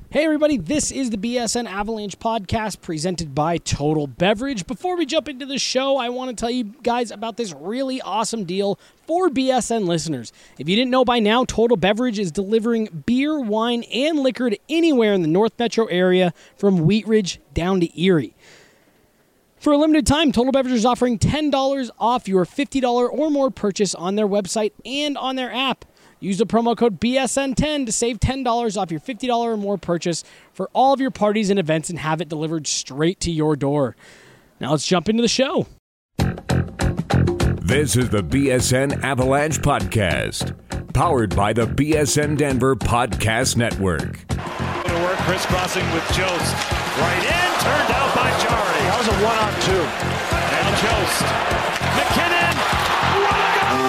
Hey everybody, this is the BSN Avalanche podcast presented by Total Beverage. Before we jump into the show, I want to tell you guys about this really awesome deal for BSN listeners. If you didn't know by now, Total Beverage is delivering beer, wine, and liquor to anywhere in the North Metro area from Wheat Ridge down to Erie. For a limited time, Total Beverage is offering $10 off your $50 or more purchase on their website and on their app. Use the promo code BSN10 to save $10 off your $50 or more purchase for all of your parties and events and have it delivered straight to your door. Now let's jump into the show. This is the BSN Avalanche Podcast, powered by the BSN Denver Podcast Network. To work, crisscrossing with Jost. Right in, turned out by Jari. That was a 1-on-2. Now Jost. McKinnon. What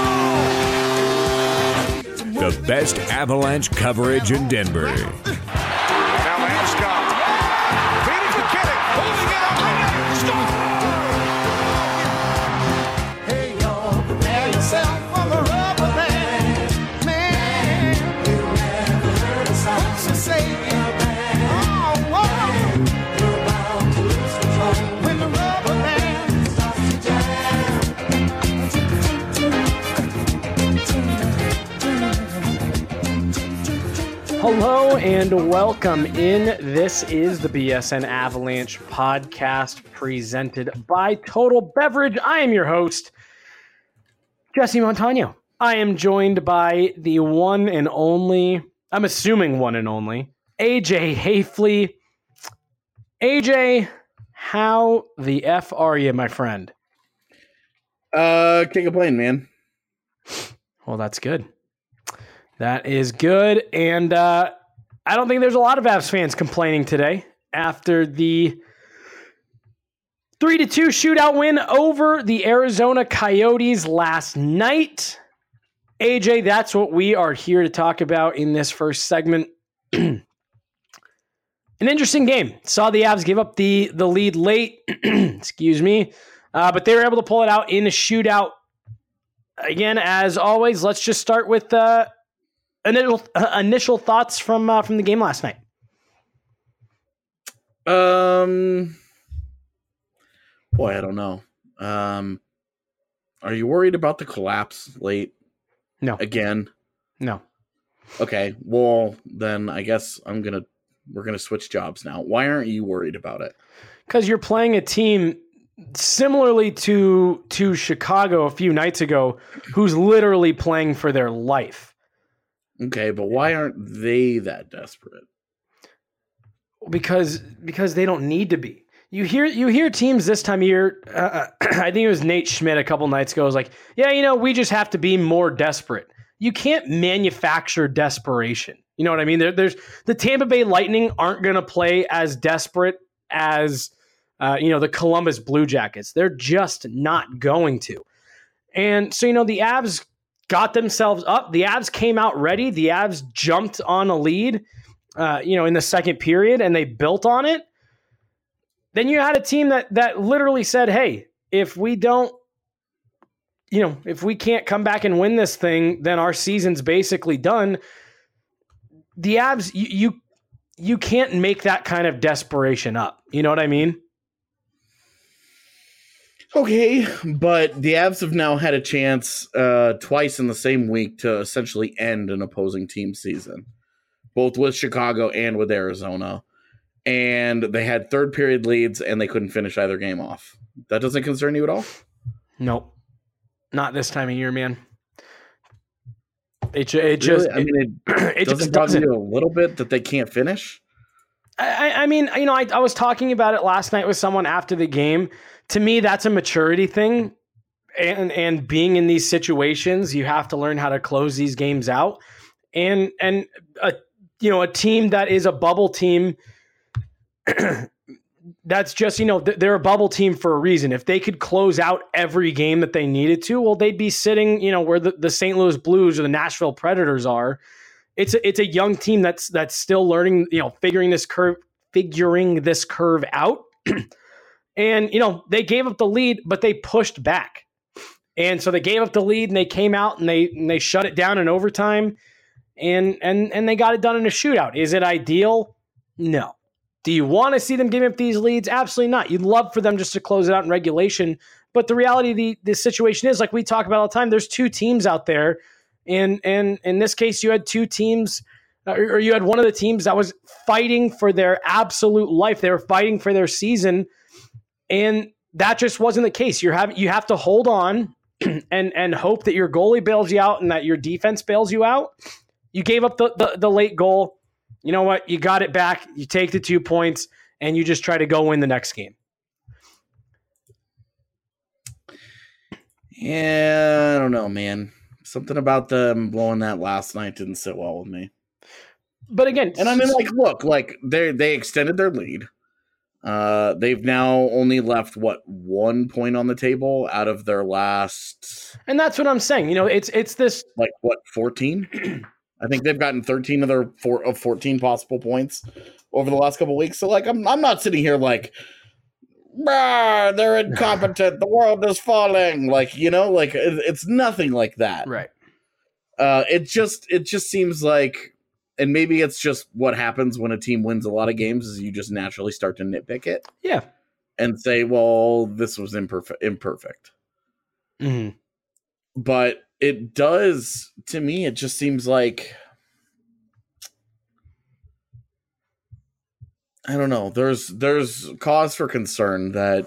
a goal! The best Avalanche coverage in Denver. Now Landeskog. Feeding McKinnon. Holding it up. Hey, y'all, prepare yourself for the rubber band. Man, you never heard a sound so say it. Oh, whoa. You're about to lose control when the rubber band starts to jam. Hello and welcome in. This is the BSN Avalanche podcast presented by Total Beverage. I am your host, Jesse Montano. I am joined by the one and only, I'm assuming one and only, AJ Hafley. AJ, how the F are you, my friend? Can't complain, man. Well, that's good. That is good. And I don't think there's a lot of Avs fans complaining today after the 3-2 shootout win over the Arizona Coyotes last night. AJ, that's what we are here to talk about in this first segment. An interesting game. Saw the Avs give up the lead late. Excuse me. But they were able to pull it out in a shootout. Again, as always, let's just start with initial thoughts from the game last night. Boy, I don't know. Are you worried about the collapse late? No. Again? No. Okay, well, then I guess we're gonna switch jobs now. Why aren't you worried about it? Because you're playing a team similarly to Chicago a few nights ago, who's literally playing for their life. Okay, but why aren't they that desperate? Because they don't need to be. You hear teams this time of year. I think it was Nate Schmidt a couple nights ago was like, yeah, we just have to be more desperate. You can't manufacture desperation. You know what I mean? There's the Tampa Bay Lightning aren't going to play as desperate as the Columbus Blue Jackets. They're just not going to. And so the Avs got themselves up. The Avs came out ready. The Avs jumped on a lead, in the second period, and they built on it. Then you had a team that literally said, hey, if we don't, if we can't come back and win this thing, then our season's basically done. The Avs, you can't make that kind of desperation up. You know what I mean? Okay, but the Avs have now had a chance twice in the same week to essentially end an opposing team's season, both with Chicago and with Arizona. And they had third period leads and they couldn't finish either game off. That doesn't concern you at all? Nope. Not this time of year, man. It doesn't bother you a little bit that they can't finish? I was talking about it last night with someone after the game. To me, that's a maturity thing. And being in these situations, you have to learn how to close these games out. And a team that is a bubble team, that's just, they're a bubble team for a reason. If they could close out every game that they needed to, well, they'd be sitting, where the St. Louis Blues or the Nashville Predators are. It's a young team that's still learning, figuring this curve out. And, they gave up the lead, but they pushed back. And so they gave up the lead and they came out and they shut it down in overtime and they got it done in a shootout. Is it ideal? No. Do you want to see them give up these leads? Absolutely not. You'd love for them just to close it out in regulation. But the reality of the situation is, like we talk about all the time, there's two teams out there. And in this case, you had two teams, or you had one of the teams that was fighting for their absolute life. They were fighting for their season. And that just wasn't the case. You have to hold on and hope that your goalie bails you out and that your defense bails you out. You gave up the late goal. You know what? You got it back. You take the 2 points, and you just try to go win the next game. Yeah, I don't know, man. Something about them blowing that last night didn't sit well with me. But again, and I mean, like, look, like they extended their lead. They've now only left 1 point on the table out of their last. And that's what I'm saying. You know, it's this 14. I think they've gotten 13 of their 14 possible points over the last couple of weeks. So, like, I'm not sitting here like, they're incompetent. The world is falling. Like, you know, like it's nothing like that. Right. It just seems like, and maybe it's just what happens when a team wins a lot of games is you just naturally start to nitpick it. Yeah. And say, well, this was imperfect. Mm-hmm. But it does, to me, it just seems like, I don't know, there's cause for concern that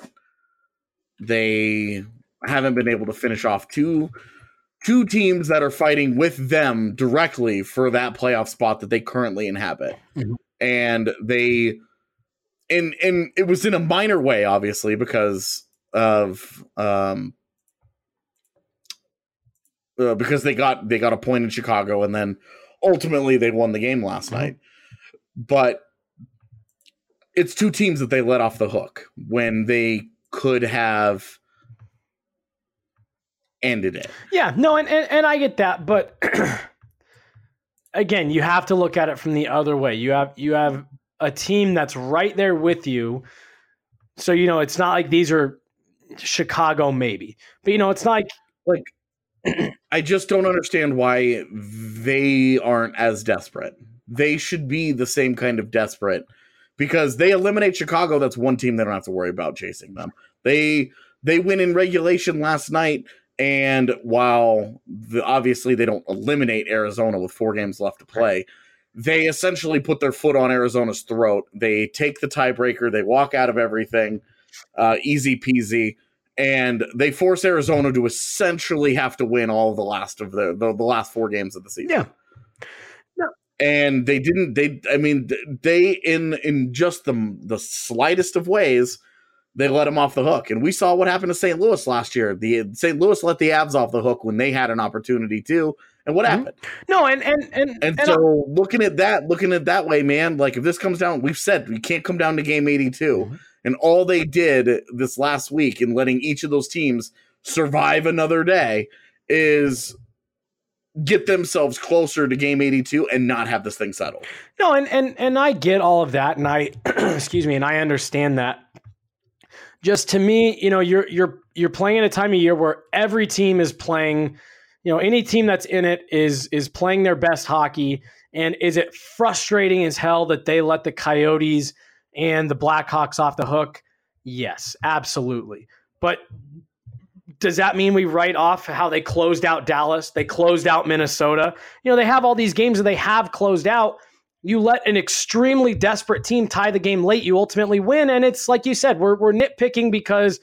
they haven't been able to finish off two teams that are fighting with them directly for that playoff spot that they currently inhabit. Mm-hmm. And and it was in a minor way, obviously, because of because they got a point in Chicago, and then ultimately they won the game last night. But it's two teams that they let off the hook when they could have ended it. Yeah, no, and I get that, but again, you have to look at it from the other way. You have a team that's right there with you. So, you know, it's not like these are Chicago maybe. But, you know, it's not like I just don't understand why they aren't as desperate. They should be the same kind of desperate because they eliminate Chicago. That's one team they don't have to worry about chasing them. They win in regulation last night, and while obviously they don't eliminate Arizona with 4 games left to play, they essentially put their foot on Arizona's throat. They take the tiebreaker. They walk out of everything, easy peasy. And they force Arizona to essentially have to win all of the last 4 games of the season. Yeah. No. And they didn't. They in just the slightest of ways, they let them off the hook. And we saw what happened to St. Louis last year. The St. Louis let the Avs off the hook when they had an opportunity too. And what happened? No, and so looking at that way, man, like if this comes down, we've said we can't come down to game 82. Mm-hmm. And all they did this last week in letting each of those teams survive another day is get themselves closer to game 82 and not have this thing settled. No, and I get all of that, and I excuse me, and I understand that. Just to me, you know, you're playing at a time of year where every team is playing, you know, any team that's in it is playing their best hockey. And is it frustrating as hell that they let the Coyotes and the Blackhawks off the hook? Yes, absolutely. But does that mean we write off how they closed out Dallas? They closed out Minnesota. You know, they have all these games that they have closed out. You let an extremely desperate team tie the game late, you ultimately win. And it's like you said, we're nitpicking because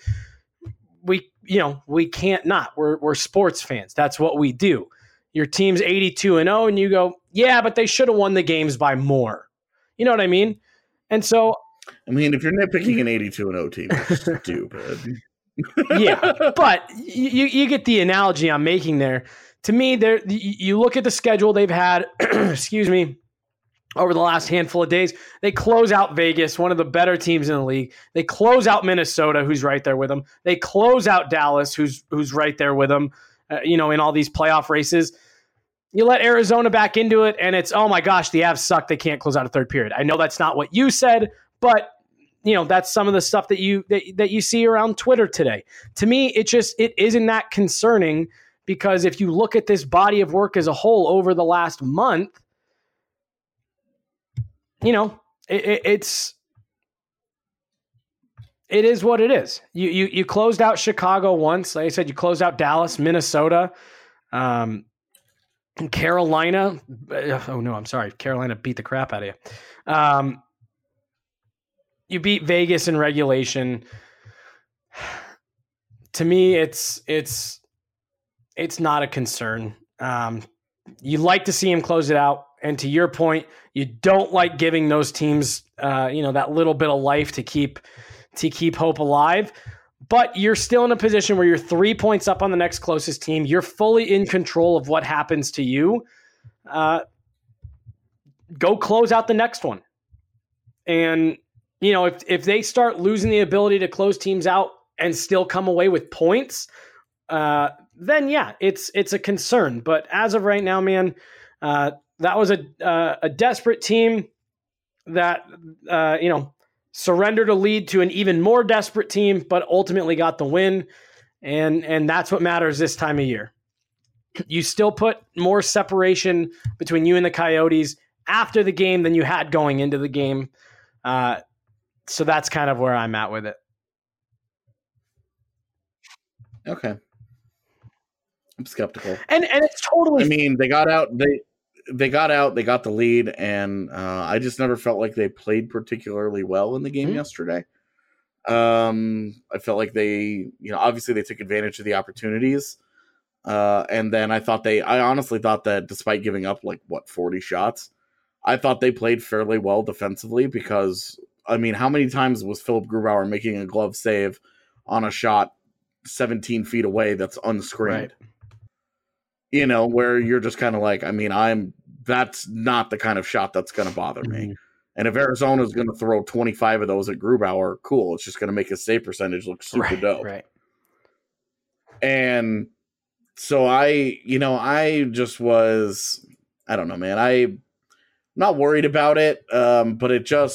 we can't not. We're sports fans. That's what we do. Your team's 82-0, and you go, yeah, but they should have won the games by more. You know what I mean? And so, I mean, if you're nitpicking an 82-0 team, it's stupid. Yeah, but you get the analogy I'm making there. To me, you look at the schedule they've had, excuse me, over the last handful of days. They close out Vegas, one of the better teams in the league. They close out Minnesota, who's right there with them. They close out Dallas, who's right there with them, in all these playoff races. You let Arizona back into it, and it's, oh my gosh, the Avs suck. They can't close out a third period. I know that's not what you said, but that's some of the stuff that you see around Twitter today. To me, it isn't that concerning, because if you look at this body of work as a whole over the last month, It is what it is. You closed out Chicago once. Like I said, you closed out Dallas, Minnesota, Carolina. Oh no, I'm sorry. Carolina beat the crap out of you. You beat Vegas in regulation. To me, it's not a concern. You like to see him close it out. And to your point, you don't like giving those teams, that little bit of life to keep hope alive. But you're still in a position where you're 3 points up on the next closest team. You're fully in control of what happens to you. Go close out the next one. And, if they start losing the ability to close teams out and still come away with points, then yeah, it's a concern. But as of right now, man, that was a desperate team that, surrendered a lead to an even more desperate team, but ultimately got the win. And that's what matters this time of year. You still put more separation between you and the Coyotes after the game than you had going into the game. So that's kind of where I'm at with it. Okay. I'm skeptical. And it's totally... I mean, they got out. They got the lead, and I just never felt like they played particularly well in the game yesterday. I felt like they, obviously they took advantage of the opportunities. And then I honestly thought that despite giving up 40 shots, I thought they played fairly well defensively because, I mean, how many times was Philip Grubauer making a glove save on a shot 17 feet away that's unscreened? Right. Where you're just kind of like, I mean, that's not the kind of shot that's going to bother me. And if Arizona is going to throw 25 of those at Grubauer, cool. It's just going to make his save percentage look super dope. Right. And so I just was, I don't know, man. I'm not worried about it. But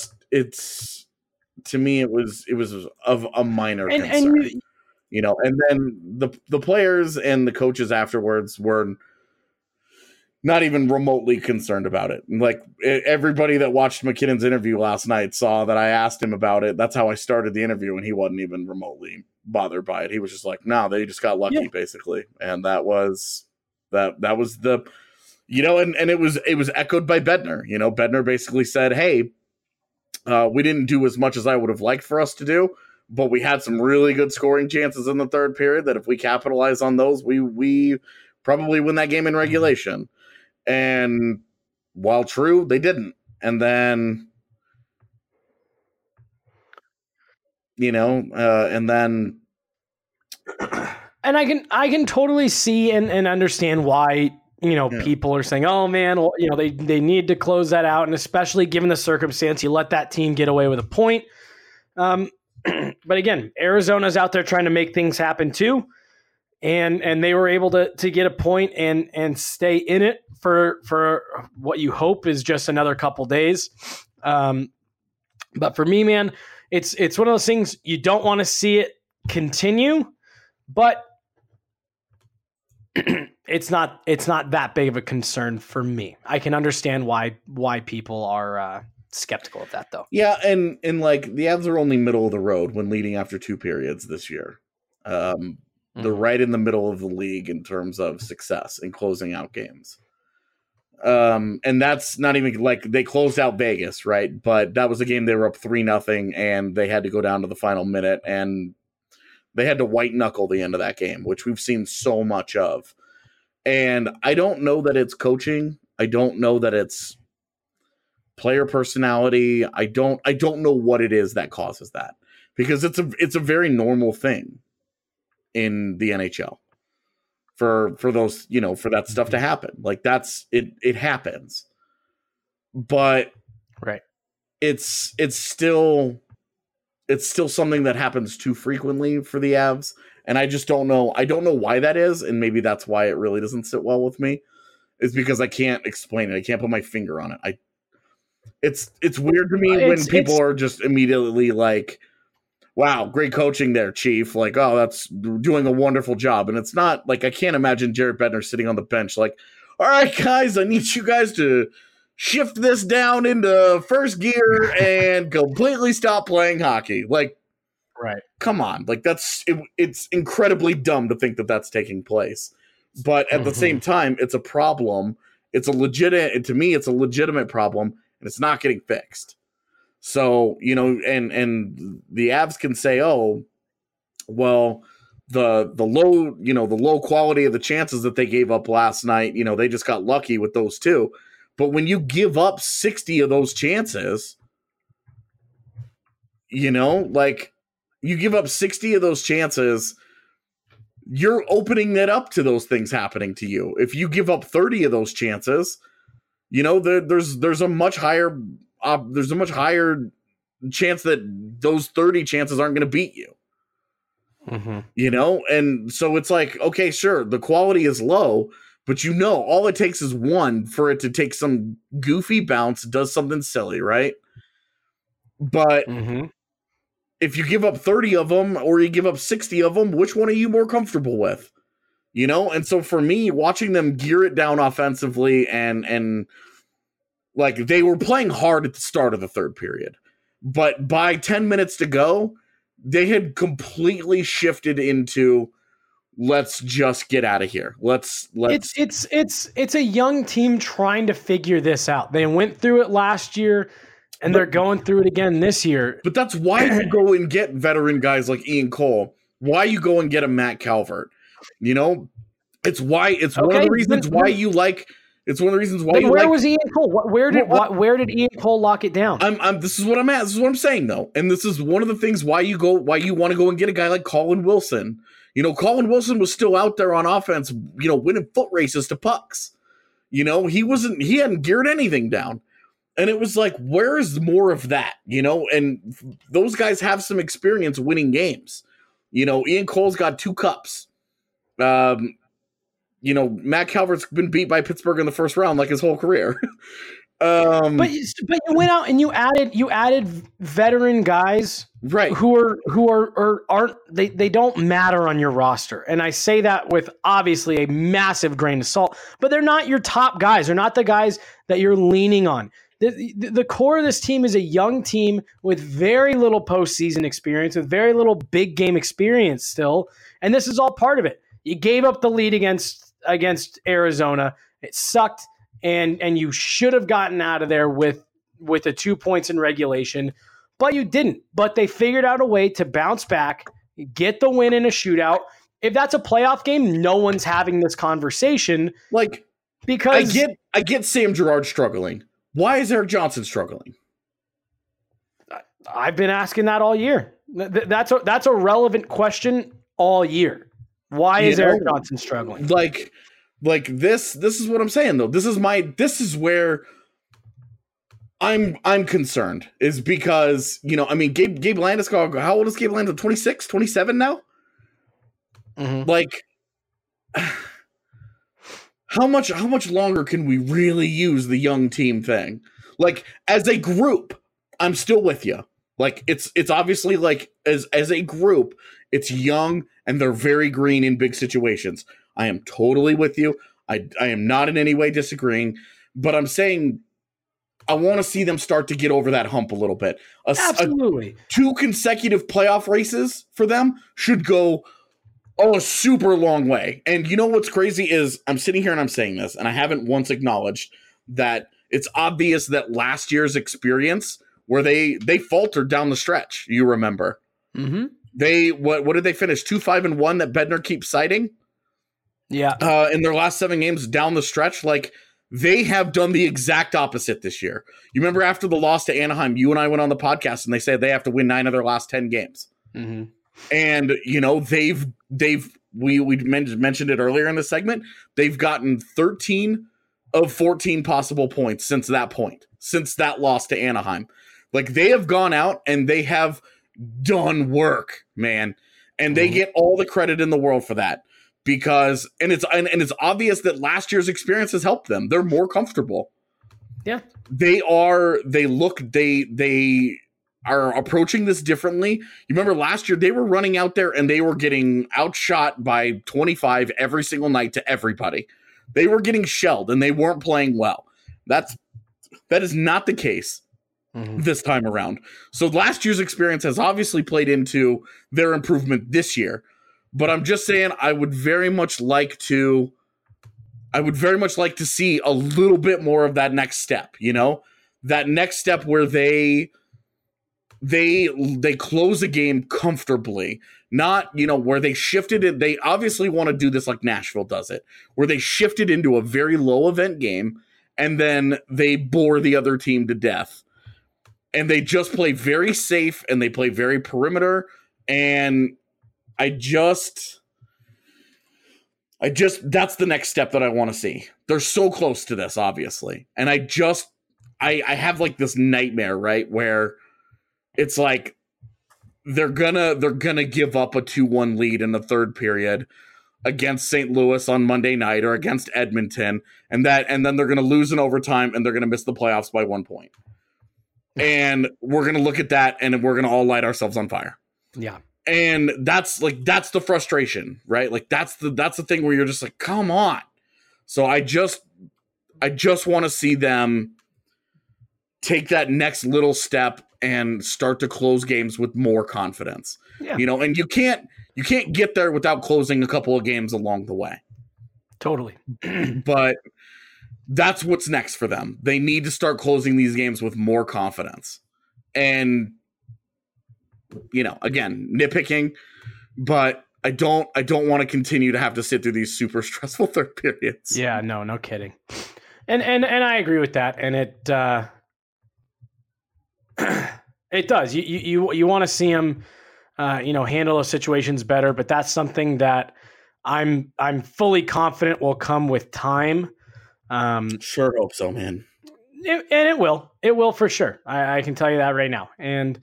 to me, it was of a minor concern. And then the players and the coaches afterwards were not even remotely concerned about it. Like everybody that watched McKinnon's interview last night saw that I asked him about it. That's how I started the interview, and he wasn't even remotely bothered by it. He was just like, no, they just got lucky, basically. And that was the, and it was echoed by Bednar. Bednar basically said, hey, we didn't do as much as I would have liked for us to do, but we had some really good scoring chances in the third period that if we capitalize on those, we probably win that game in regulation. And while true, they didn't. And then, and I can totally see and understand why, people are saying, oh man, well, they need to close that out. And especially given the circumstance, you let that team get away with a point. But again, Arizona's out there trying to make things happen too. And they were able to get a point and stay in it for what you hope is just another couple days. But for me, man, it's one of those things you don't want to see it continue, but it's not that big of a concern for me. I can understand why people are skeptical of that though. Yeah, and the Avs are only middle of the road when leading after two periods this year. They're right in the middle of the league in terms of success in closing out games. And that's not even they closed out Vegas, right? But that was a game they were up 3-0 and they had to go down to the final minute and they had to white knuckle the end of that game, which we've seen so much of. And I don't know that it's coaching. I don't know that it's player personality. I don't know what it is that causes that, because it's a very normal thing in the NHL for those, for that stuff to happen. Like it happens, but right. It's still something that happens too frequently for the Avs. And I just don't know. I don't know why that is. And maybe that's why it really doesn't sit well with me, is because I can't explain it. I can't put my finger on it. It's weird to me when people are just immediately like, wow, great coaching there, Chief. Like, oh, that's doing a wonderful job. And it's not like, I can't imagine Jared Bednar sitting on the bench like, all right, guys, I need you guys to shift this down into first gear and completely stop playing hockey. Like, Right. come on. Like, it's incredibly dumb to think that that's taking place. But at the same time, it's a problem. It's a legitimate problem, and it's not getting fixed. So, and the Avs can say, oh, well, the low quality of the chances that they gave up last night, they just got lucky with those two. But when you give up 60 of those chances, you give up 60 of those chances, you're opening it up to those things happening to you. If you give up 30 of those chances, there's a much higher chance that those 30 chances aren't going to beat you. And so it's like, okay, sure, the quality is low, but all it takes is one for it to take some goofy bounce, does something silly, right? But if you give up 30 of them or you give up 60 of them, which one are you more comfortable with? And so for me, watching them gear it down offensively and like they were playing hard at the start of the third period, but by 10 minutes to go, they had completely shifted into let's just get out of here. Let's It's a young team trying to figure this out. They went through it last year and they're going through it again this year. But that's why you go and get veteran guys like Ian Cole. Why you go and get a Matt Calvert. It's one of the reasons why you like. It's one of the reasons why you like. Where was Ian Cole? Where did Ian Cole lock it down? This is what I'm at. This is what I'm saying though, and this is one of the things why you want to go and get a guy like Colin Wilson. Colin Wilson was still out there on offense, winning foot races to pucks. He hadn't geared anything down. And it was like, where is more of that? And those guys have some experience winning games. Ian Cole's got 2 cups. Matt Calvert's been beat by Pittsburgh in the first round like his whole career. But you went out and you added veteran guys, right? Who aren't they don't matter on your roster, and I say that with obviously a massive grain of salt. But they're not your top guys. They're not the guys that you're leaning on. The core of this team is a young team with very little postseason experience, with very little big game experience still, and this is all part of it. You gave up the lead against Arizona. It sucked. And you should have gotten out of there with the 2 points in regulation, but you didn't. But they figured out a way to bounce back, get the win in a shootout. If that's a playoff game, no one's having this conversation. Because I get Sam Girard struggling. Why is Erik Johnson struggling? I've been asking that all year. That's a relevant question all year. Why is Erik Johnson struggling? Like this is what I'm saying though. This is where I'm concerned, is because, Gabe Landeskog, how old is Gabe Landeskog? 26, 27 now? Like, how much longer can we really use the young team thing? Like, as a group, I'm still with you. Like, it's obviously like as a group, it's young and they're very green in big situations. I am totally with you. I am not in any way disagreeing, but I'm saying I want to see them start to get over that hump a little bit. Absolutely. 2 consecutive playoff races for them should go a super long way. And you know what's crazy is I'm sitting here and I'm saying this, and I haven't once acknowledged that it's obvious that last year's experience where they faltered down the stretch, you remember. Mm-hmm. What did they finish? 2-5-1 that Bednar keeps citing? Yeah. In their last 7 games down the stretch, like, they have done the exact opposite this year. You remember after the loss to Anaheim, you and I went on the podcast and they said they have to win 9 of their last 10 games. Mm-hmm. And, we mentioned it earlier in the segment. They've gotten 13 of 14 possible points since that point, since that loss to Anaheim. Like, they have gone out and they have done work, man. And they get all the credit in the world for that. Because it's obvious that last year's experience has helped them. They're more comfortable. Yeah. They are approaching this differently. You remember last year they were running out there and they were getting outshot by 25 every single night to everybody. They were getting shelled and they weren't playing well. That's That is not the case this time around. So last year's experience has obviously played into their improvement this year. But I'm just saying I would very much like to see a little bit more of that next step, that next step where they close a game comfortably, not, where they shifted it. They obviously want to do this like Nashville does it, where they shifted into a very low event game and then they bore the other team to death. And they just play very safe and they play very perimeter. And that's the next step that I want to see. They're so close to this, obviously. And I have like this nightmare, right? Where it's like they're gonna give up a 2-1 lead in the third period against St. Louis on Monday night or against Edmonton, and then they're gonna lose in overtime and they're gonna miss the playoffs by 1 point. And we're gonna look at that and we're gonna all light ourselves on fire. Yeah. And that's the frustration, right? Like that's the thing where you're just like, come on. So I just want to see them take that next little step and start to close games with more confidence. Yeah. And you can't get there without closing a couple of games along the way. Totally. But that's what's next for them. They need to start closing these games with more confidence. And again, nitpicking, but I don't want to continue to have to sit through these super stressful third periods. Yeah, no kidding. And I agree with that. And it it does. You want to see them handle those situations better, but that's something that I'm fully confident will come with time. Sure hope so, man. It will for sure. I can tell you that right now. And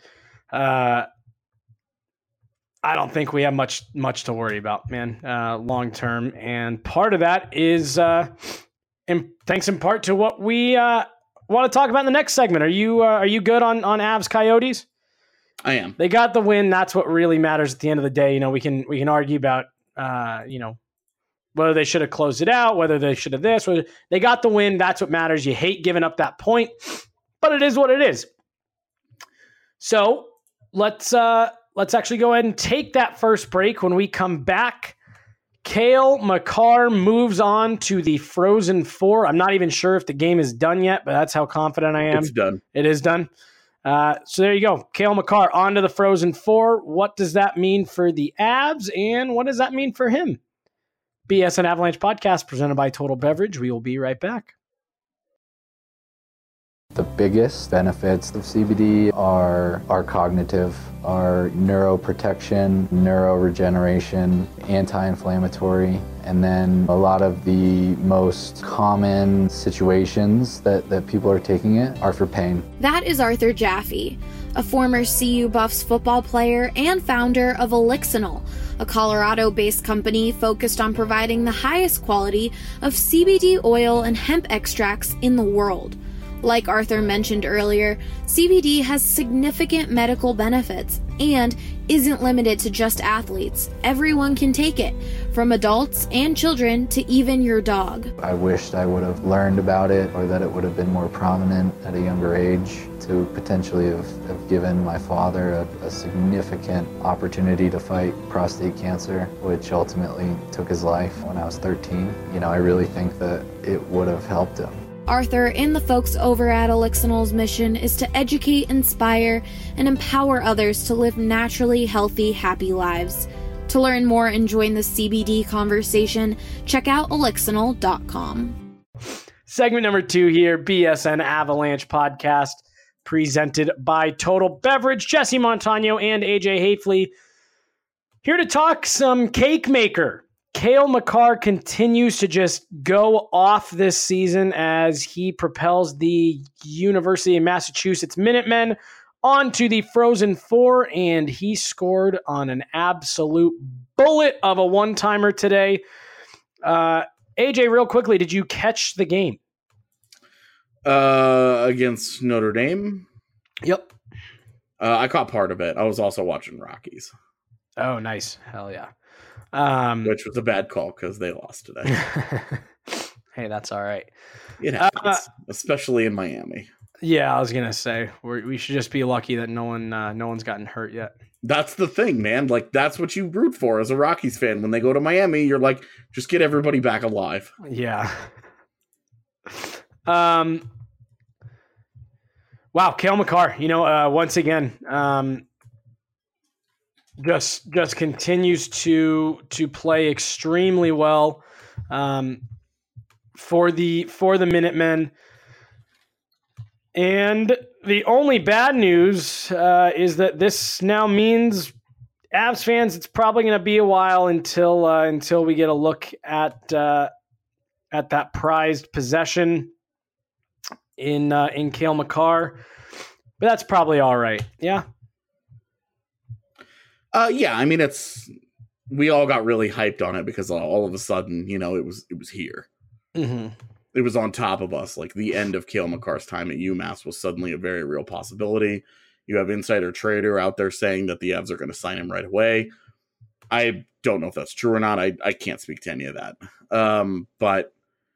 I don't think we have much to worry about, man, long term. And part of that is thanks in part to what we want to talk about in the next segment. Are you good on Avs Coyotes? I am. They got the win. That's what really matters at the end of the day. We can argue about whether they should have closed it out, whether they should have this. Whether they got the win. That's what matters. You hate giving up that point, but it is what it is. So let's actually go ahead and take that first break. When we come back, Cale Makar moves on to the Frozen Four. I'm not even sure if the game is done yet, but that's how confident I am. It's done. It is done. So there you go. Cale Makar on to the Frozen Four. What does that mean for the Avs, and what does that mean for him? BSN Avalanche podcast presented by Total Beverage. We will be right back. The biggest benefits of CBD are cognitive, are neuroprotection, neuroregeneration, anti-inflammatory, and then a lot of the most common situations that people are taking it are for pain. That is Arthur Jaffe, a former CU Buffs football player and founder of Elixinol, a Colorado-based company focused on providing the highest quality of CBD oil and hemp extracts in the world. Like Arthur mentioned earlier, CBD has significant medical benefits and isn't limited to just athletes. Everyone can take it, from adults and children to even your dog. I wished I would have learned about it, or that it would have been more prominent at a younger age to potentially have given my father a significant opportunity to fight prostate cancer, which ultimately took his life when I was 13. I really think that it would have helped him. Arthur and the folks over at Elixinol's mission is to educate, inspire, and empower others to live naturally healthy, happy lives. To learn more and join the CBD conversation, check out elixinol.com. Segment number 2 here, BSN Avalanche podcast, presented by Total Beverage. Jesse Montano and AJ Hafley here to talk some cake maker. Cale Makar continues to just go off this season as he propels the University of Massachusetts Minutemen onto the Frozen Four, and he scored on an absolute bullet of a one-timer today. AJ, real quickly, did you catch the game? Against Notre Dame? Yep. I caught part of it. I was also watching Rockies. Oh, nice. Hell yeah. Which was a bad call because they lost today. Hey, that's all right. It happens, especially in Miami. Yeah, I was gonna say we should just be lucky that no one's gotten hurt yet. That's the thing, man. Like, that's what you root for as a Rockies fan. When they go to Miami, you're like, just get everybody back alive. Yeah. Wow, Cale Makar, once again, just continues to play extremely well for the Minutemen. And the only bad news is that this now means Avs fans, it's probably going to be a while until we get a look at that prized possession in Cale Makar. But that's probably all right. Yeah. Yeah. I mean, we all got really hyped on it because all of a sudden, it was here. Mm-hmm. It was on top of us. Like, the end of Cale Makar's time at UMass was suddenly a very real possibility. You have Insider Trader out there saying that the Avs are going to sign him right away. I don't know if that's true or not. I can't speak to any of that. But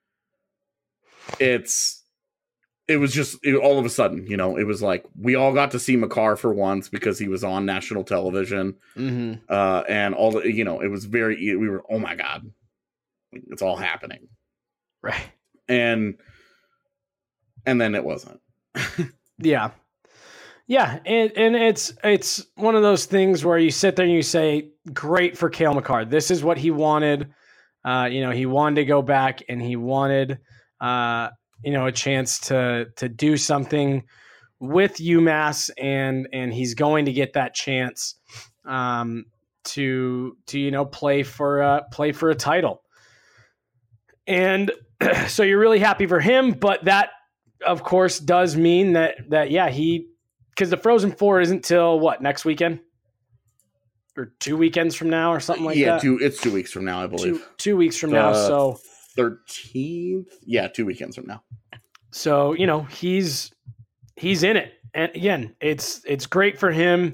it was just all of a sudden, it was like we all got to see Makar for once because he was on national television. Mm-hmm. And all the, it was we were, oh my God, it's all happening. Right. And then it wasn't. Yeah. Yeah. And it's one of those things where you sit there and you say, great for Cale Makar. This is what he wanted. He wanted to go back and he wanted, a chance to do something with UMass and he's going to get that chance, to play for a title. And so you're really happy for him, but that of course does mean that because the Frozen Four isn't till what, next weekend or 2 weekends from now or something like that. Yeah, it's 2 weeks from now, I believe. 2 weeks from now. So 13th. Yeah, 2 weekends from now. So he's in it, and again, it's great for him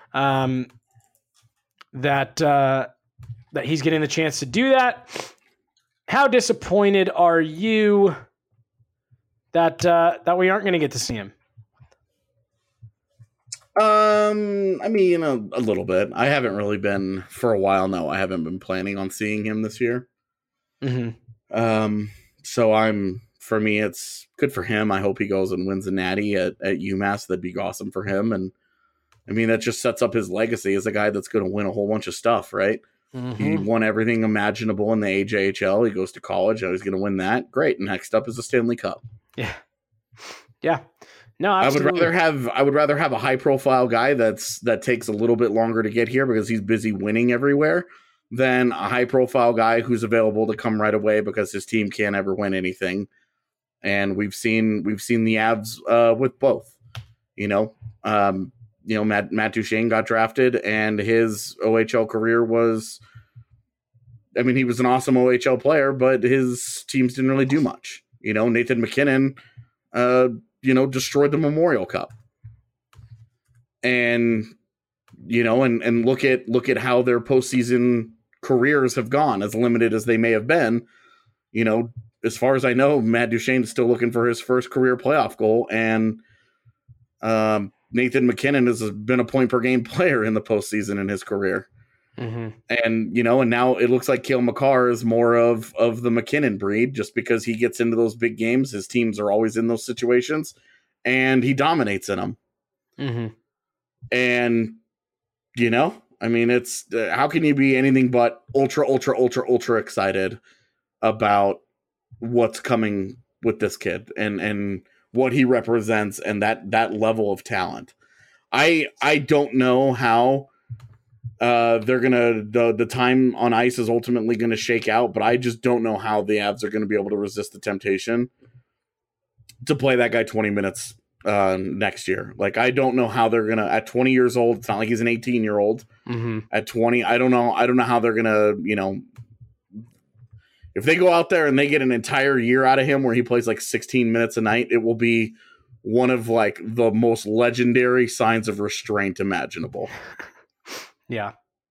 that he's getting the chance to do that. How disappointed are you that we aren't going to get to see him? I mean, a little bit. I haven't really been for a while now. I haven't been planning on seeing him this year. Mm-hmm. So for me, it's good for him. I hope he goes and wins a natty at UMass. That'd be awesome for him. And I mean, that just sets up his legacy as a guy that's going to win a whole bunch of stuff, right? Mm-hmm. He won everything imaginable in the AJHL. He goes to college. He's going to win that. Great. Next up is a Stanley Cup. Yeah. Yeah. No, absolutely. I would rather have a high profile guy that takes a little bit longer to get here because he's busy winning everywhere than a high profile guy who's available to come right away because his team can't ever win anything. And we've seen the Avs with both. Matt Duchene got drafted and his OHL career was, I mean, he was an awesome OHL player, but his teams didn't really do much. Nathan McKinnon, destroyed the Memorial Cup. And, and look at how their postseason careers have gone, as limited as they may have been. As far as I know, Matt Duchene is still looking for his first career playoff goal. And Nathan McKinnon has been a point per game player in the postseason in his career. Mm-hmm. And, and now it looks like Cale Makar is more of the McKinnon breed just because he gets into those big games. His teams are always in those situations and he dominates in them. Mm-hmm. And, I mean, it's how can you be anything but ultra, ultra, ultra, ultra excited about what's coming with this kid and what he represents and that level of talent. I don't know how they're gonna the time on ice is ultimately gonna shake out, but I just don't know how the Avs are gonna be able to resist the temptation to play that guy 20 minutes next year. Like, I don't know how they're gonna at 20 years old. It's not like he's an 18-year-old. Mm-hmm. At 20, I don't know how they're gonna if they go out there and they get an entire year out of him where he plays like 16 minutes a night, it will be one of like the most legendary signs of restraint imaginable. Yeah.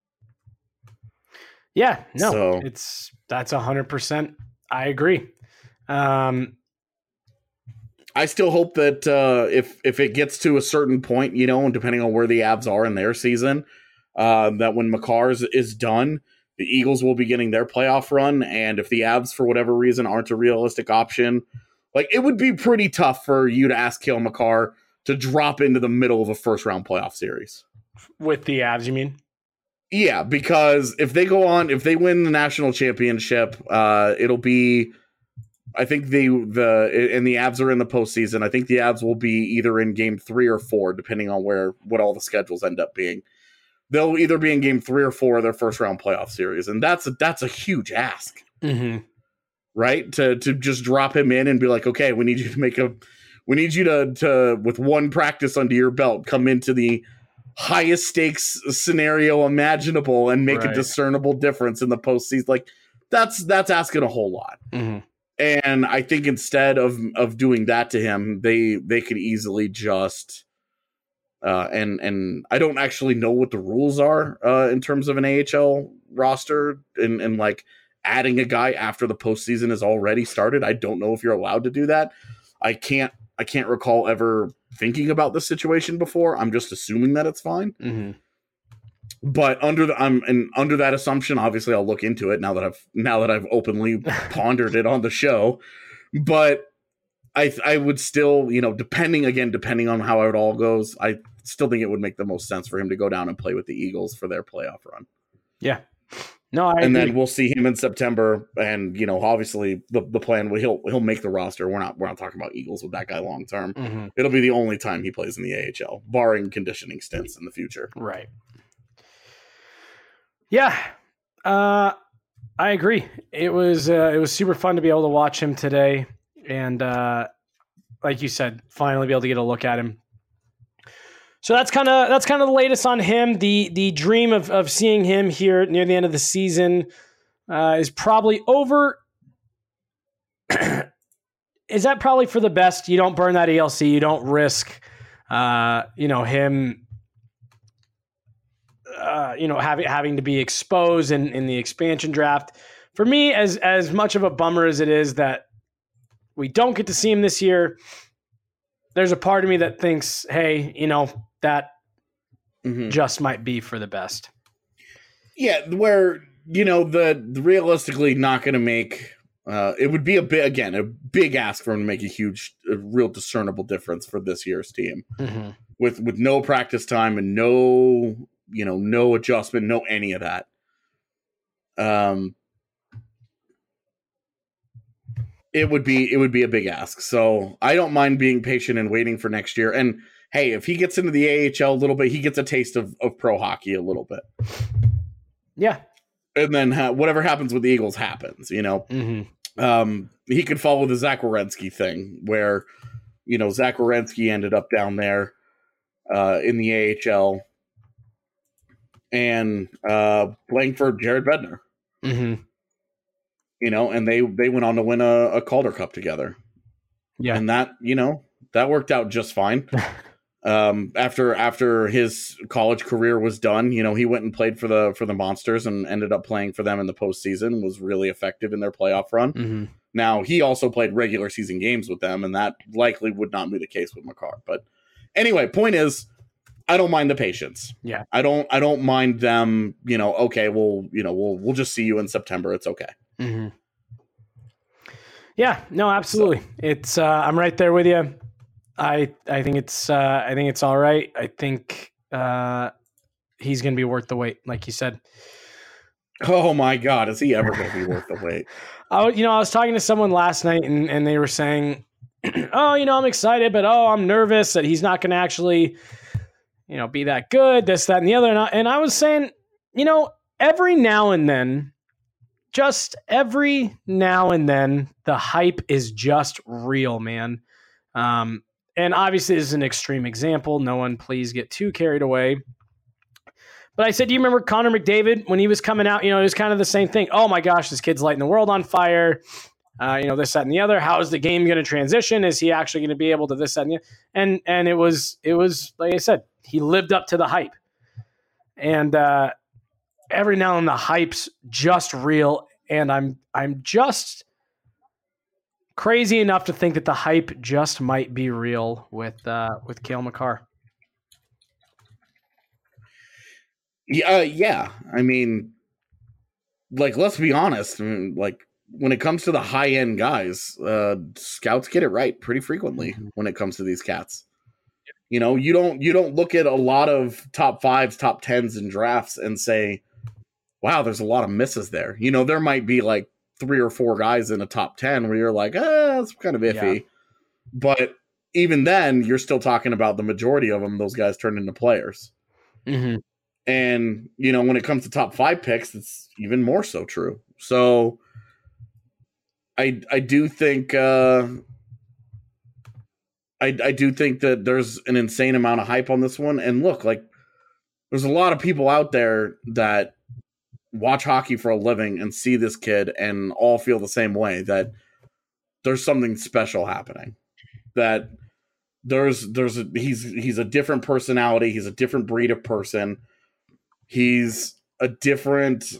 Yeah. No, So, that's 100%. I agree. I still hope that if it gets to a certain point, and depending on where the Avs are in their season, that when Makar is done, the Eagles will be getting their playoff run. And if the Avs, for whatever reason, aren't a realistic option, like, it would be pretty tough for you to ask Cale Makar to drop into the middle of a first-round playoff series. With the Avs, you mean? Yeah, because if they win the national championship, it'll be, I think the Avs are in the postseason. I think the Avs will be either in game 3 or 4, depending on what all the schedules end up being. They'll either be in game 3 or 4 of their first-round playoff series, and that's a huge ask. Mm-hmm. Right? To just drop him in and be like, okay, we need you to with one practice under your belt, come into the highest stakes scenario imaginable and make a discernible difference in the postseason. Like, that's asking a whole lot. Mm-hmm. And I think instead of doing that to him, they could easily just and I don't actually know what the rules are in terms of an AHL roster and like adding a guy after the postseason has already started. I don't know if you're allowed to do that. I can't recall ever thinking about this situation before. I'm just assuming that it's fine. Mm-hmm. But under that assumption, obviously I'll look into it now that I've openly pondered it on the show. But I would still, depending on how it all goes, I still think it would make the most sense for him to go down and play with the Eagles for their playoff run. Yeah. No, I agree. Then we'll see him in September, and obviously the plan he'll make the roster. We're not talking about Eagles with that guy long term. Mm-hmm. It'll be the only time he plays in the AHL, barring conditioning stints in the future. Right. Yeah, I agree. It was super fun to be able to watch him today, and like you said, finally be able to get a look at him. So that's kind of the latest on him. The dream of seeing him here near the end of the season is probably over. Is that probably for the best? You don't burn that ELC. You don't risk, him, having to be exposed in the expansion draft. For me, as much of a bummer as it is that we don't get to see him this year, there's a part of me that thinks, hey, that just might be for the best. Yeah, where, the realistically not going to make, it would be a big ask for him to make a real discernible difference for this year's team. Mm-hmm. With no practice time and no adjustment, no any of that. It would be a big ask. So I don't mind being patient and waiting for next year. And hey, if he gets into the AHL a little bit, he gets a taste of pro hockey a little bit. Yeah. And then whatever happens with the Eagles happens, Mm-hmm. He could follow the Zach Werenski thing where, Zach Werenski ended up down there in the AHL and playing for Jared Bednar. Mm-hmm. And they went on to win a Calder Cup together. Yeah. And that, that worked out just fine. After his college career was done, he went and played for the Monsters and ended up playing for them in the postseason, was really effective in their playoff run. Mm-hmm. Now, he also played regular season games with them, and that likely would not be the case with Makar. But anyway, point is, I don't mind the patience. Yeah. I don't mind them, okay, we'll just see you in September. It's okay. Mm-hmm. Yeah, no, absolutely. So, it's I'm right there with you. I think it's all right. I think he's going to be worth the wait, like you said. Oh my God, is he ever going to be worth the wait? I was talking to someone last night and they were saying, oh, I'm excited, but I'm nervous that he's not going to actually, be that good, this, that, and the other. And I was saying, every now and then, the hype is just real, man. And obviously, this is an extreme example. No one please get too carried away. But I said, do you remember Connor McDavid when he was coming out? It was kind of the same thing. Oh my gosh, this kid's lighting the world on fire. This, that, and the other. How is the game going to transition? Is he actually going to be able to this, that, and the other? And it was like I said, he lived up to the hype. And every now and then the hype's just real. And I'm just crazy enough to think that the hype just might be real with Cale Makar. Yeah. I mean, like, let's be honest. I mean, like, when it comes to the high end guys, scouts get it right pretty frequently when it comes to these cats. You know, you don't look at a lot of top 5s, top 10s in drafts and say, wow, there's a lot of misses there. You know, there might be like 3 or 4 guys in a top 10 where you're like, that's kind of iffy. Yeah. But even then, you're still talking about the majority of them, those guys turn into players. Mm-hmm. And, you know, when it comes to top 5 picks, it's even more so true. So I do think I do think that there's an insane amount of hype on this one. And look, like, there's a lot of people out there that watch hockey for a living and see this kid and all feel the same way, that there's something special happening, that he's a different personality. He's a different breed of person. He's a different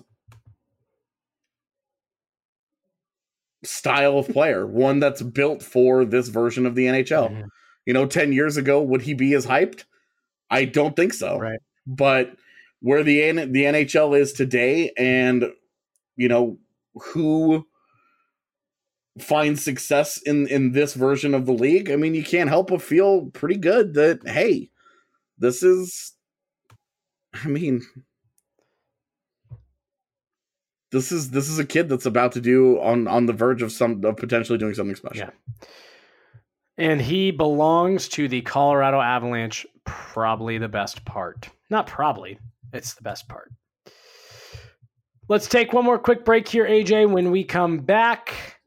style of player, one that's built for this version of the NHL. Mm-hmm. You know, 10 years ago, would he be as hyped? I don't think so. Right. But where the NHL is today, and, you know, who finds success in this version of the league, I mean, you can't help but feel pretty good that, hey, this is a kid that's about to do on the verge of potentially doing something special. Yeah. And he belongs to the Colorado Avalanche, probably the best part. Not probably, it's the best part. Let's take one more quick break here, AJ. When we come back,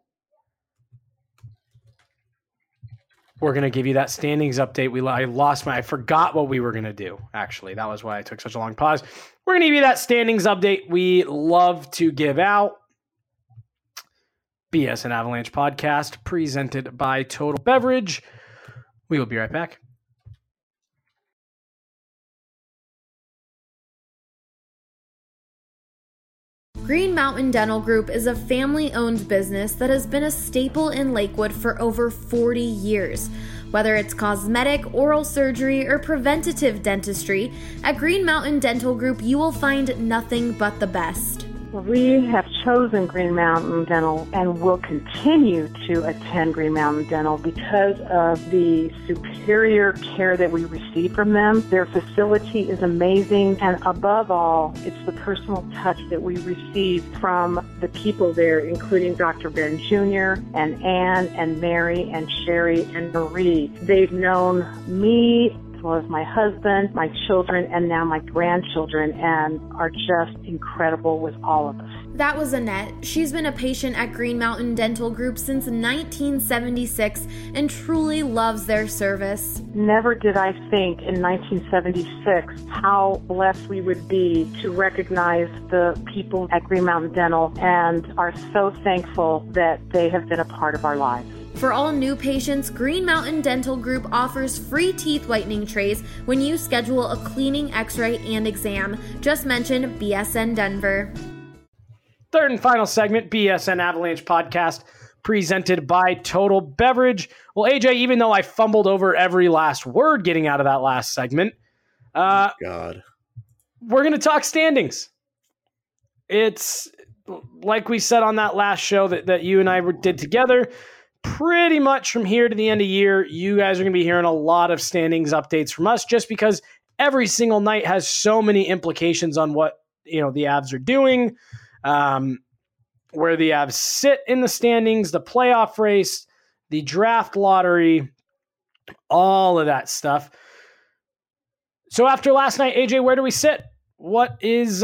we're going to give you that standings update. I forgot what we were going to do, actually. That was why I took such a long pause. We're going to give you that standings update we love to give out. BSN Avalanche podcast presented by Total Beverage. We will be right back. Green Mountain Dental Group is a family-owned business that has been a staple in Lakewood for over 40 years. Whether it's cosmetic, oral surgery, or preventative dentistry, at Green Mountain Dental Group you will find nothing but the best. We have chosen Green Mountain Dental and will continue to attend Green Mountain Dental because of the superior care that we receive from them. Their facility is amazing, and above all, it's the personal touch that we receive from the people there, including Dr. Ben Jr. and Ann and Mary and Sherry and Marie. They've known me as well as my husband, my children, and now my grandchildren, and are just incredible with all of us. That was Annette. She's been a patient at Green Mountain Dental Group since 1976 and truly loves their service. Never did I think in 1976 how blessed we would be to recognize the people at Green Mountain Dental, and are so thankful that they have been a part of our lives. For all new patients, Green Mountain Dental Group offers free teeth whitening trays when you schedule a cleaning, x-ray, and exam. Just mention BSN Denver. Third and final segment, BSN Avalanche podcast, presented by Total Beverage. Well, AJ, even though I fumbled over every last word getting out of that last segment, God, we're going to talk standings. It's like we said on that last show that you and I did together. Pretty much from here to the end of the year, you guys are going to be hearing a lot of standings updates from us, just because every single night has so many implications on what, you know, the Avs are doing, where the Avs sit in the standings, the playoff race, the draft lottery, all of that stuff. So after last night, AJ, where do we sit? What's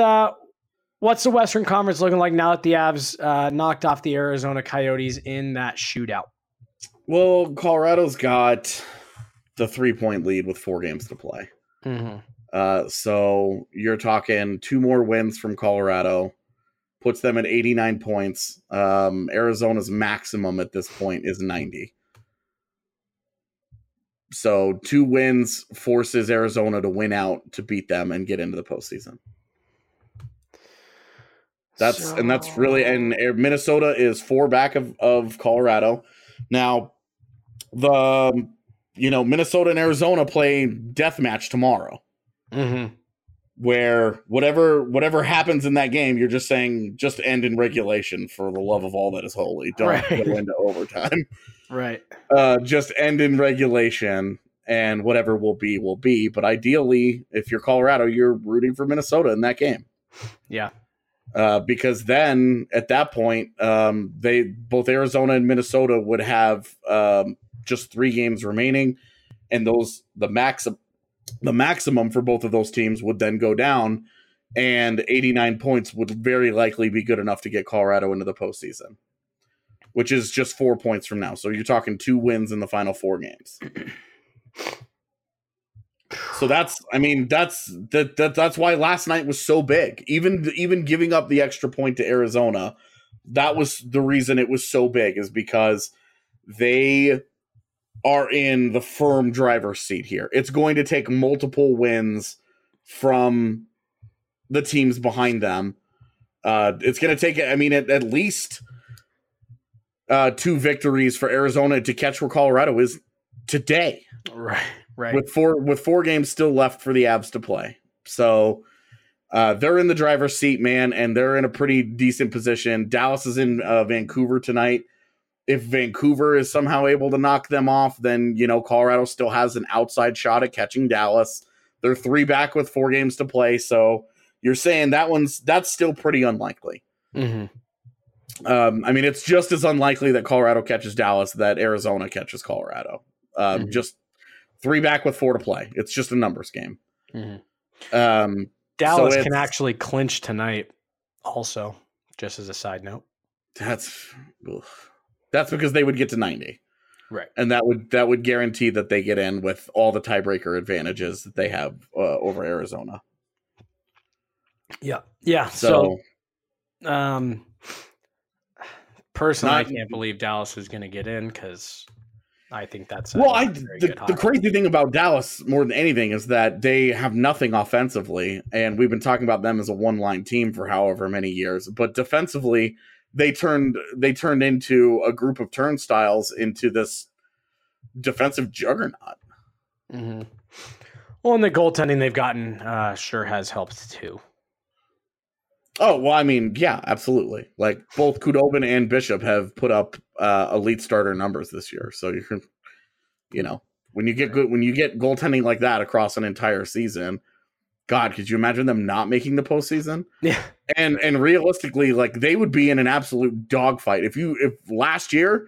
the Western Conference looking like now that the Avs knocked off the Arizona Coyotes in that shootout? Well, Colorado's got the 3-point lead with 4 games to play. Mm-hmm. So you're talking 2 more wins from Colorado, puts them at 89 points. Arizona's maximum at this point is 90. So 2 wins forces Arizona to win out to beat them and get into the postseason. That's really, and Minnesota is 4 back of Colorado. Now, Minnesota and Arizona play death match tomorrow, where whatever happens in that game, you're just saying just end in regulation for the love of all that is holy. Don't go into overtime. Right. Just end in regulation, and whatever will be, will be. But ideally, if you're Colorado, you're rooting for Minnesota in that game. Yeah. Because then at that point, both Arizona and Minnesota would have just 3 games remaining, and the maximum for both of those teams would then go down, and 89 points would very likely be good enough to get Colorado into the postseason, which is just 4 points from now. So you're talking 2 wins in the final 4 games. So that's why last night was so big. Even giving up the extra point to Arizona, that was the reason it was so big, is because they are in the firm driver's seat here. It's going to take multiple wins from the teams behind them. It's going to take, at least 2 victories for Arizona to catch where Colorado is today. Right. With 4 games still left for the Avs to play. So they're in the driver's seat, man, and they're in a pretty decent position. Dallas is in Vancouver tonight. If Vancouver is somehow able to knock them off, then, Colorado still has an outside shot at catching Dallas. They're 3 back with 4 games to play. So you're saying that's still pretty unlikely. Mm-hmm. It's just as unlikely that Colorado catches Dallas that Arizona catches Colorado. Just 3 back with 4 to play. It's just a numbers game. Mm-hmm. Dallas can actually clinch tonight also, just as a side note. That's because they would get to 90. Right. And that would guarantee that they get in with all the tiebreaker advantages that they have over Arizona. Yeah. Yeah. So personally, I can't believe Dallas is going to get in, because I think that's the crazy thing about Dallas more than anything is that they have nothing offensively, and we've been talking about them as a one-line team for however many years, but defensively they turned into a group of turnstiles into this defensive juggernaut. Mm-hmm. Well, and the goaltending they've gotten sure has helped too. Oh, well, yeah, absolutely. Like, both Khudobin and Bishop have put up elite starter numbers this year. So when you get goaltending like that across an entire season, God, could you imagine them not making the postseason? Yeah. And realistically, like, they would be in an absolute dogfight. If last year,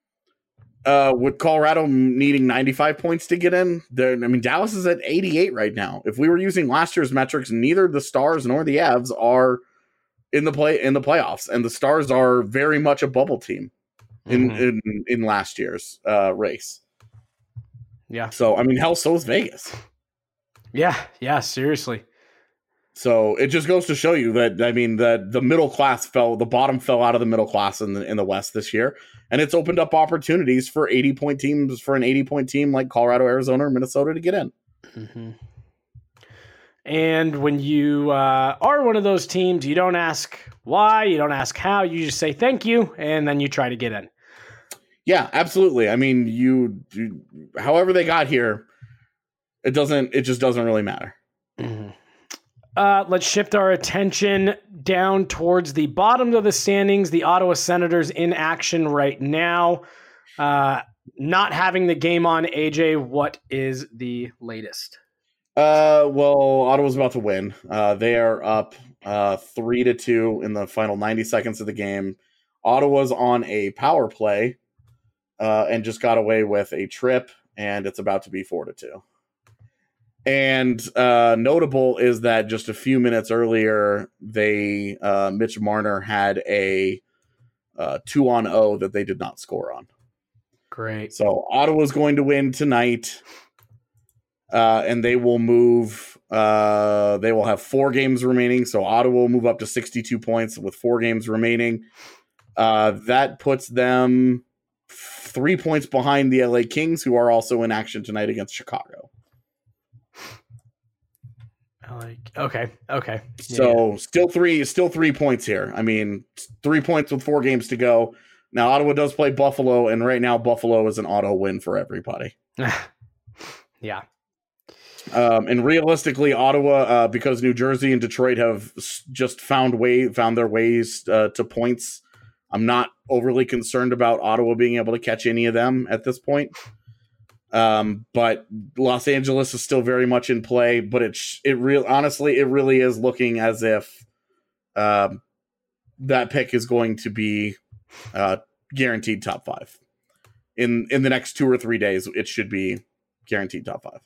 with Colorado needing 95 points to get in, Dallas is at 88 right now. If we were using last year's metrics, neither the Stars nor the Avs are in the playoffs, and the Stars are very much a bubble team in last year's race. Yeah. So hell, so is Vegas. Yeah, seriously. So it just goes to show you that the middle class the bottom fell out of the middle class in the West this year, and it's opened up opportunities for 80-point teams, for an 80-point team like Colorado, Arizona, or Minnesota to get in. Mm-hmm. And when you are one of those teams, you don't ask why, you don't ask how, you just say thank you, and then you try to get in. Yeah, absolutely. However they got here, it just doesn't really matter. Mm-hmm. Let's shift our attention down towards the bottom of the standings. The Ottawa Senators in action right now. Not having the game on. AJ, what is the latest? Well, Ottawa's about to win. They are up 3-2 in the final 90 seconds of the game. Ottawa's on a power play and just got away with a trip, and it's about to be 4-2. And notable is that just a few minutes earlier, Mitch Marner had a 2-on-0 that they did not score on. Great. So Ottawa's going to win tonight. And they will move. They will have 4 games remaining. So Ottawa will move up to 62 points with 4 games remaining. That puts them 3 points behind the LA Kings, who are also in action tonight against Chicago. Okay. So still 3 points here. 3 points with 4 games to go. Now, Ottawa does play Buffalo, and right now Buffalo is an auto win for everybody. Yeah. And realistically, Ottawa, because New Jersey and Detroit have just found their ways to points, I'm not overly concerned about Ottawa being able to catch any of them at this point. But Los Angeles is still very much in play, but honestly, it really is looking as if that pick is going to be guaranteed top 5. In the next 2 or 3 days, it should be guaranteed top 5.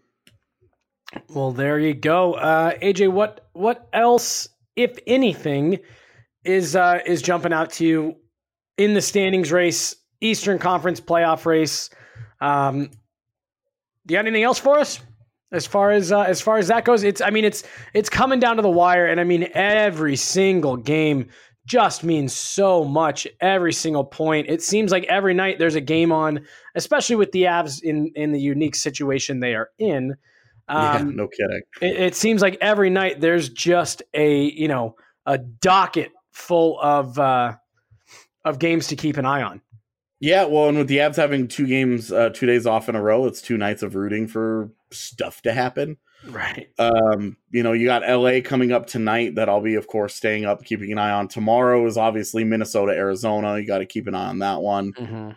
Well, there you go. AJ, what else, if anything, is jumping out to you in the standings race, Eastern Conference playoff race? Do you got anything else for us as far as that goes? It's coming down to the wire, and I mean every single game just means so much. Every single point. It seems like every night there's a game on, especially with the Avs in the unique situation they are in. Yeah, no kidding. It seems like every night there's just a docket full of games to keep an eye on. Yeah, well, and with the Avs having 2 games, 2 days off in a row, it's 2 nights of rooting for stuff to happen. Right. You got LA coming up tonight that I'll be, of course, staying up, keeping an eye on. Tomorrow is obviously Minnesota, Arizona. You got to keep an eye on that one. Mm-hmm.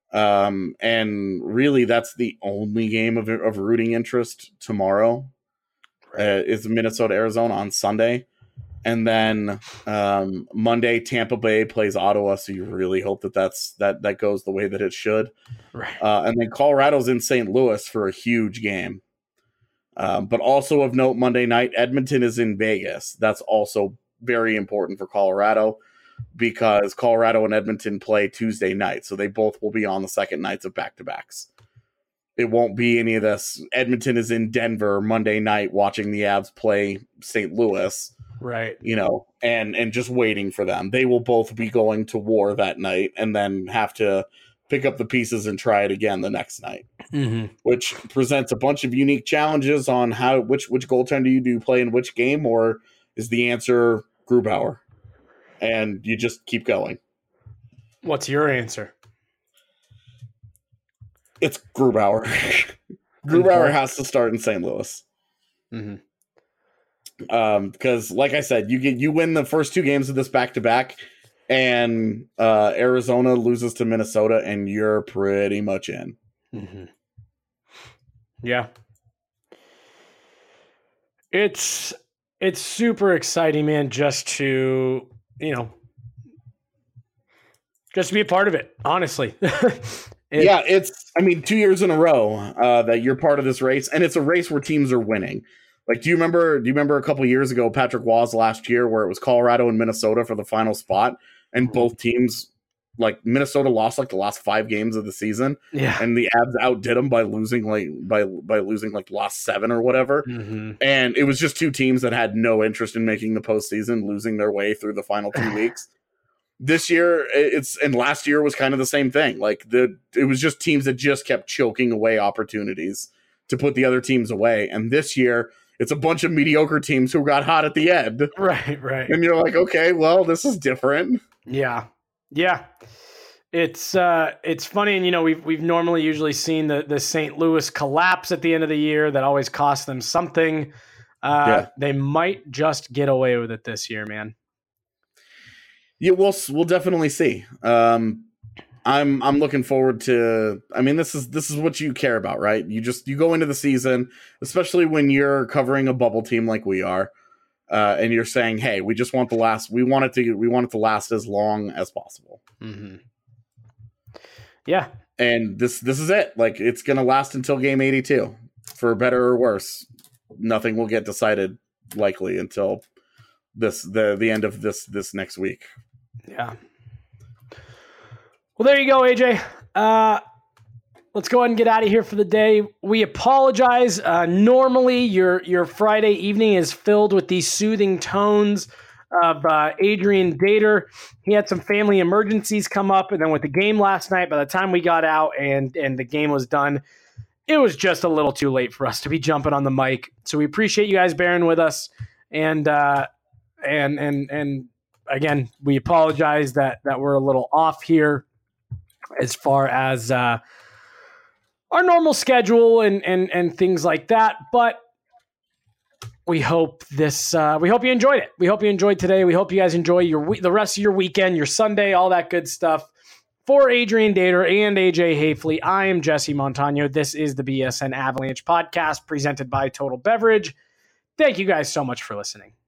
And really, that's the only game of rooting interest tomorrow. Is Minnesota, Arizona on Sunday. And then Monday, Tampa Bay plays Ottawa, so you really hope that goes the way that it should. Right. And then Colorado's in St. Louis for a huge game. But also of note, Monday night, Edmonton is in Vegas. That's also very important for Colorado because Colorado and Edmonton play Tuesday night, so they both will be on the second nights of back-to-backs. It won't be any of this. Edmonton is in Denver Monday night watching the Avs play St. Louis. Right. And just waiting for them. They will both be going to war that night and then have to pick up the pieces and try it again the next night, which presents a bunch of unique challenges on which goaltender you do play in which game, or is the answer Grubauer? And you just keep going. What's your answer? It's Grubauer. Grubauer has to start in St. Louis. Because, like I said, you win the first 2 games of this back-to-back, and Arizona loses to Minnesota, and you're pretty much in. Yeah. It's super exciting, man, just to be a part of it, honestly. It's 2 years in a row that you're part of this race, and it's a race where teams are winning. Like, do you remember a couple years ago, Patrick Waugh last year, where it was Colorado and Minnesota for the final spot, and both teams, like Minnesota lost like the last 5 games of the season, and the Avs outdid them by losing like lost 7 or whatever, and it was just 2 teams that had no interest in making the postseason, losing their way through the final 2 weeks. This year, and last year was kind of the same thing. Like it was just teams that just kept choking away opportunities to put the other teams away, and this year, it's a bunch of mediocre teams who got hot at the end. Right. And you're like, okay, well, this is different. Yeah. It's funny, and we've normally usually seen the St. Louis collapse at the end of the year. That always costs them something. They might just get away with it this year, man. Yeah, we'll definitely see. I'm looking forward to. This is what you care about, right? You go into the season, especially when you're covering a bubble team like we are, and you're saying, "Hey, we just want we want it to last as long as possible." Yeah, and this is it. Like, it's gonna last until game 82, for better or worse. Nothing will get decided likely until the end of this next week. Yeah. Well, there you go, AJ. Let's go ahead and get out of here for the day. We apologize. Normally, your Friday evening is filled with these soothing tones of Adrian Dater. He had some family emergencies come up, and then with the game last night, by the time we got out and the game was done, it was just a little too late for us to be jumping on the mic. So we appreciate you guys bearing with us, and again, we apologize that we're a little off here as far as our normal schedule and things like that. But we hope we hope you enjoyed it. We hope you enjoyed today. We hope you guys enjoy the rest of your weekend, your Sunday, all that good stuff. For Adrian Dater and AJ Hafley, I am Jesse Montano. This is the BSN Avalanche podcast presented by Total Beverage. Thank you guys so much for listening.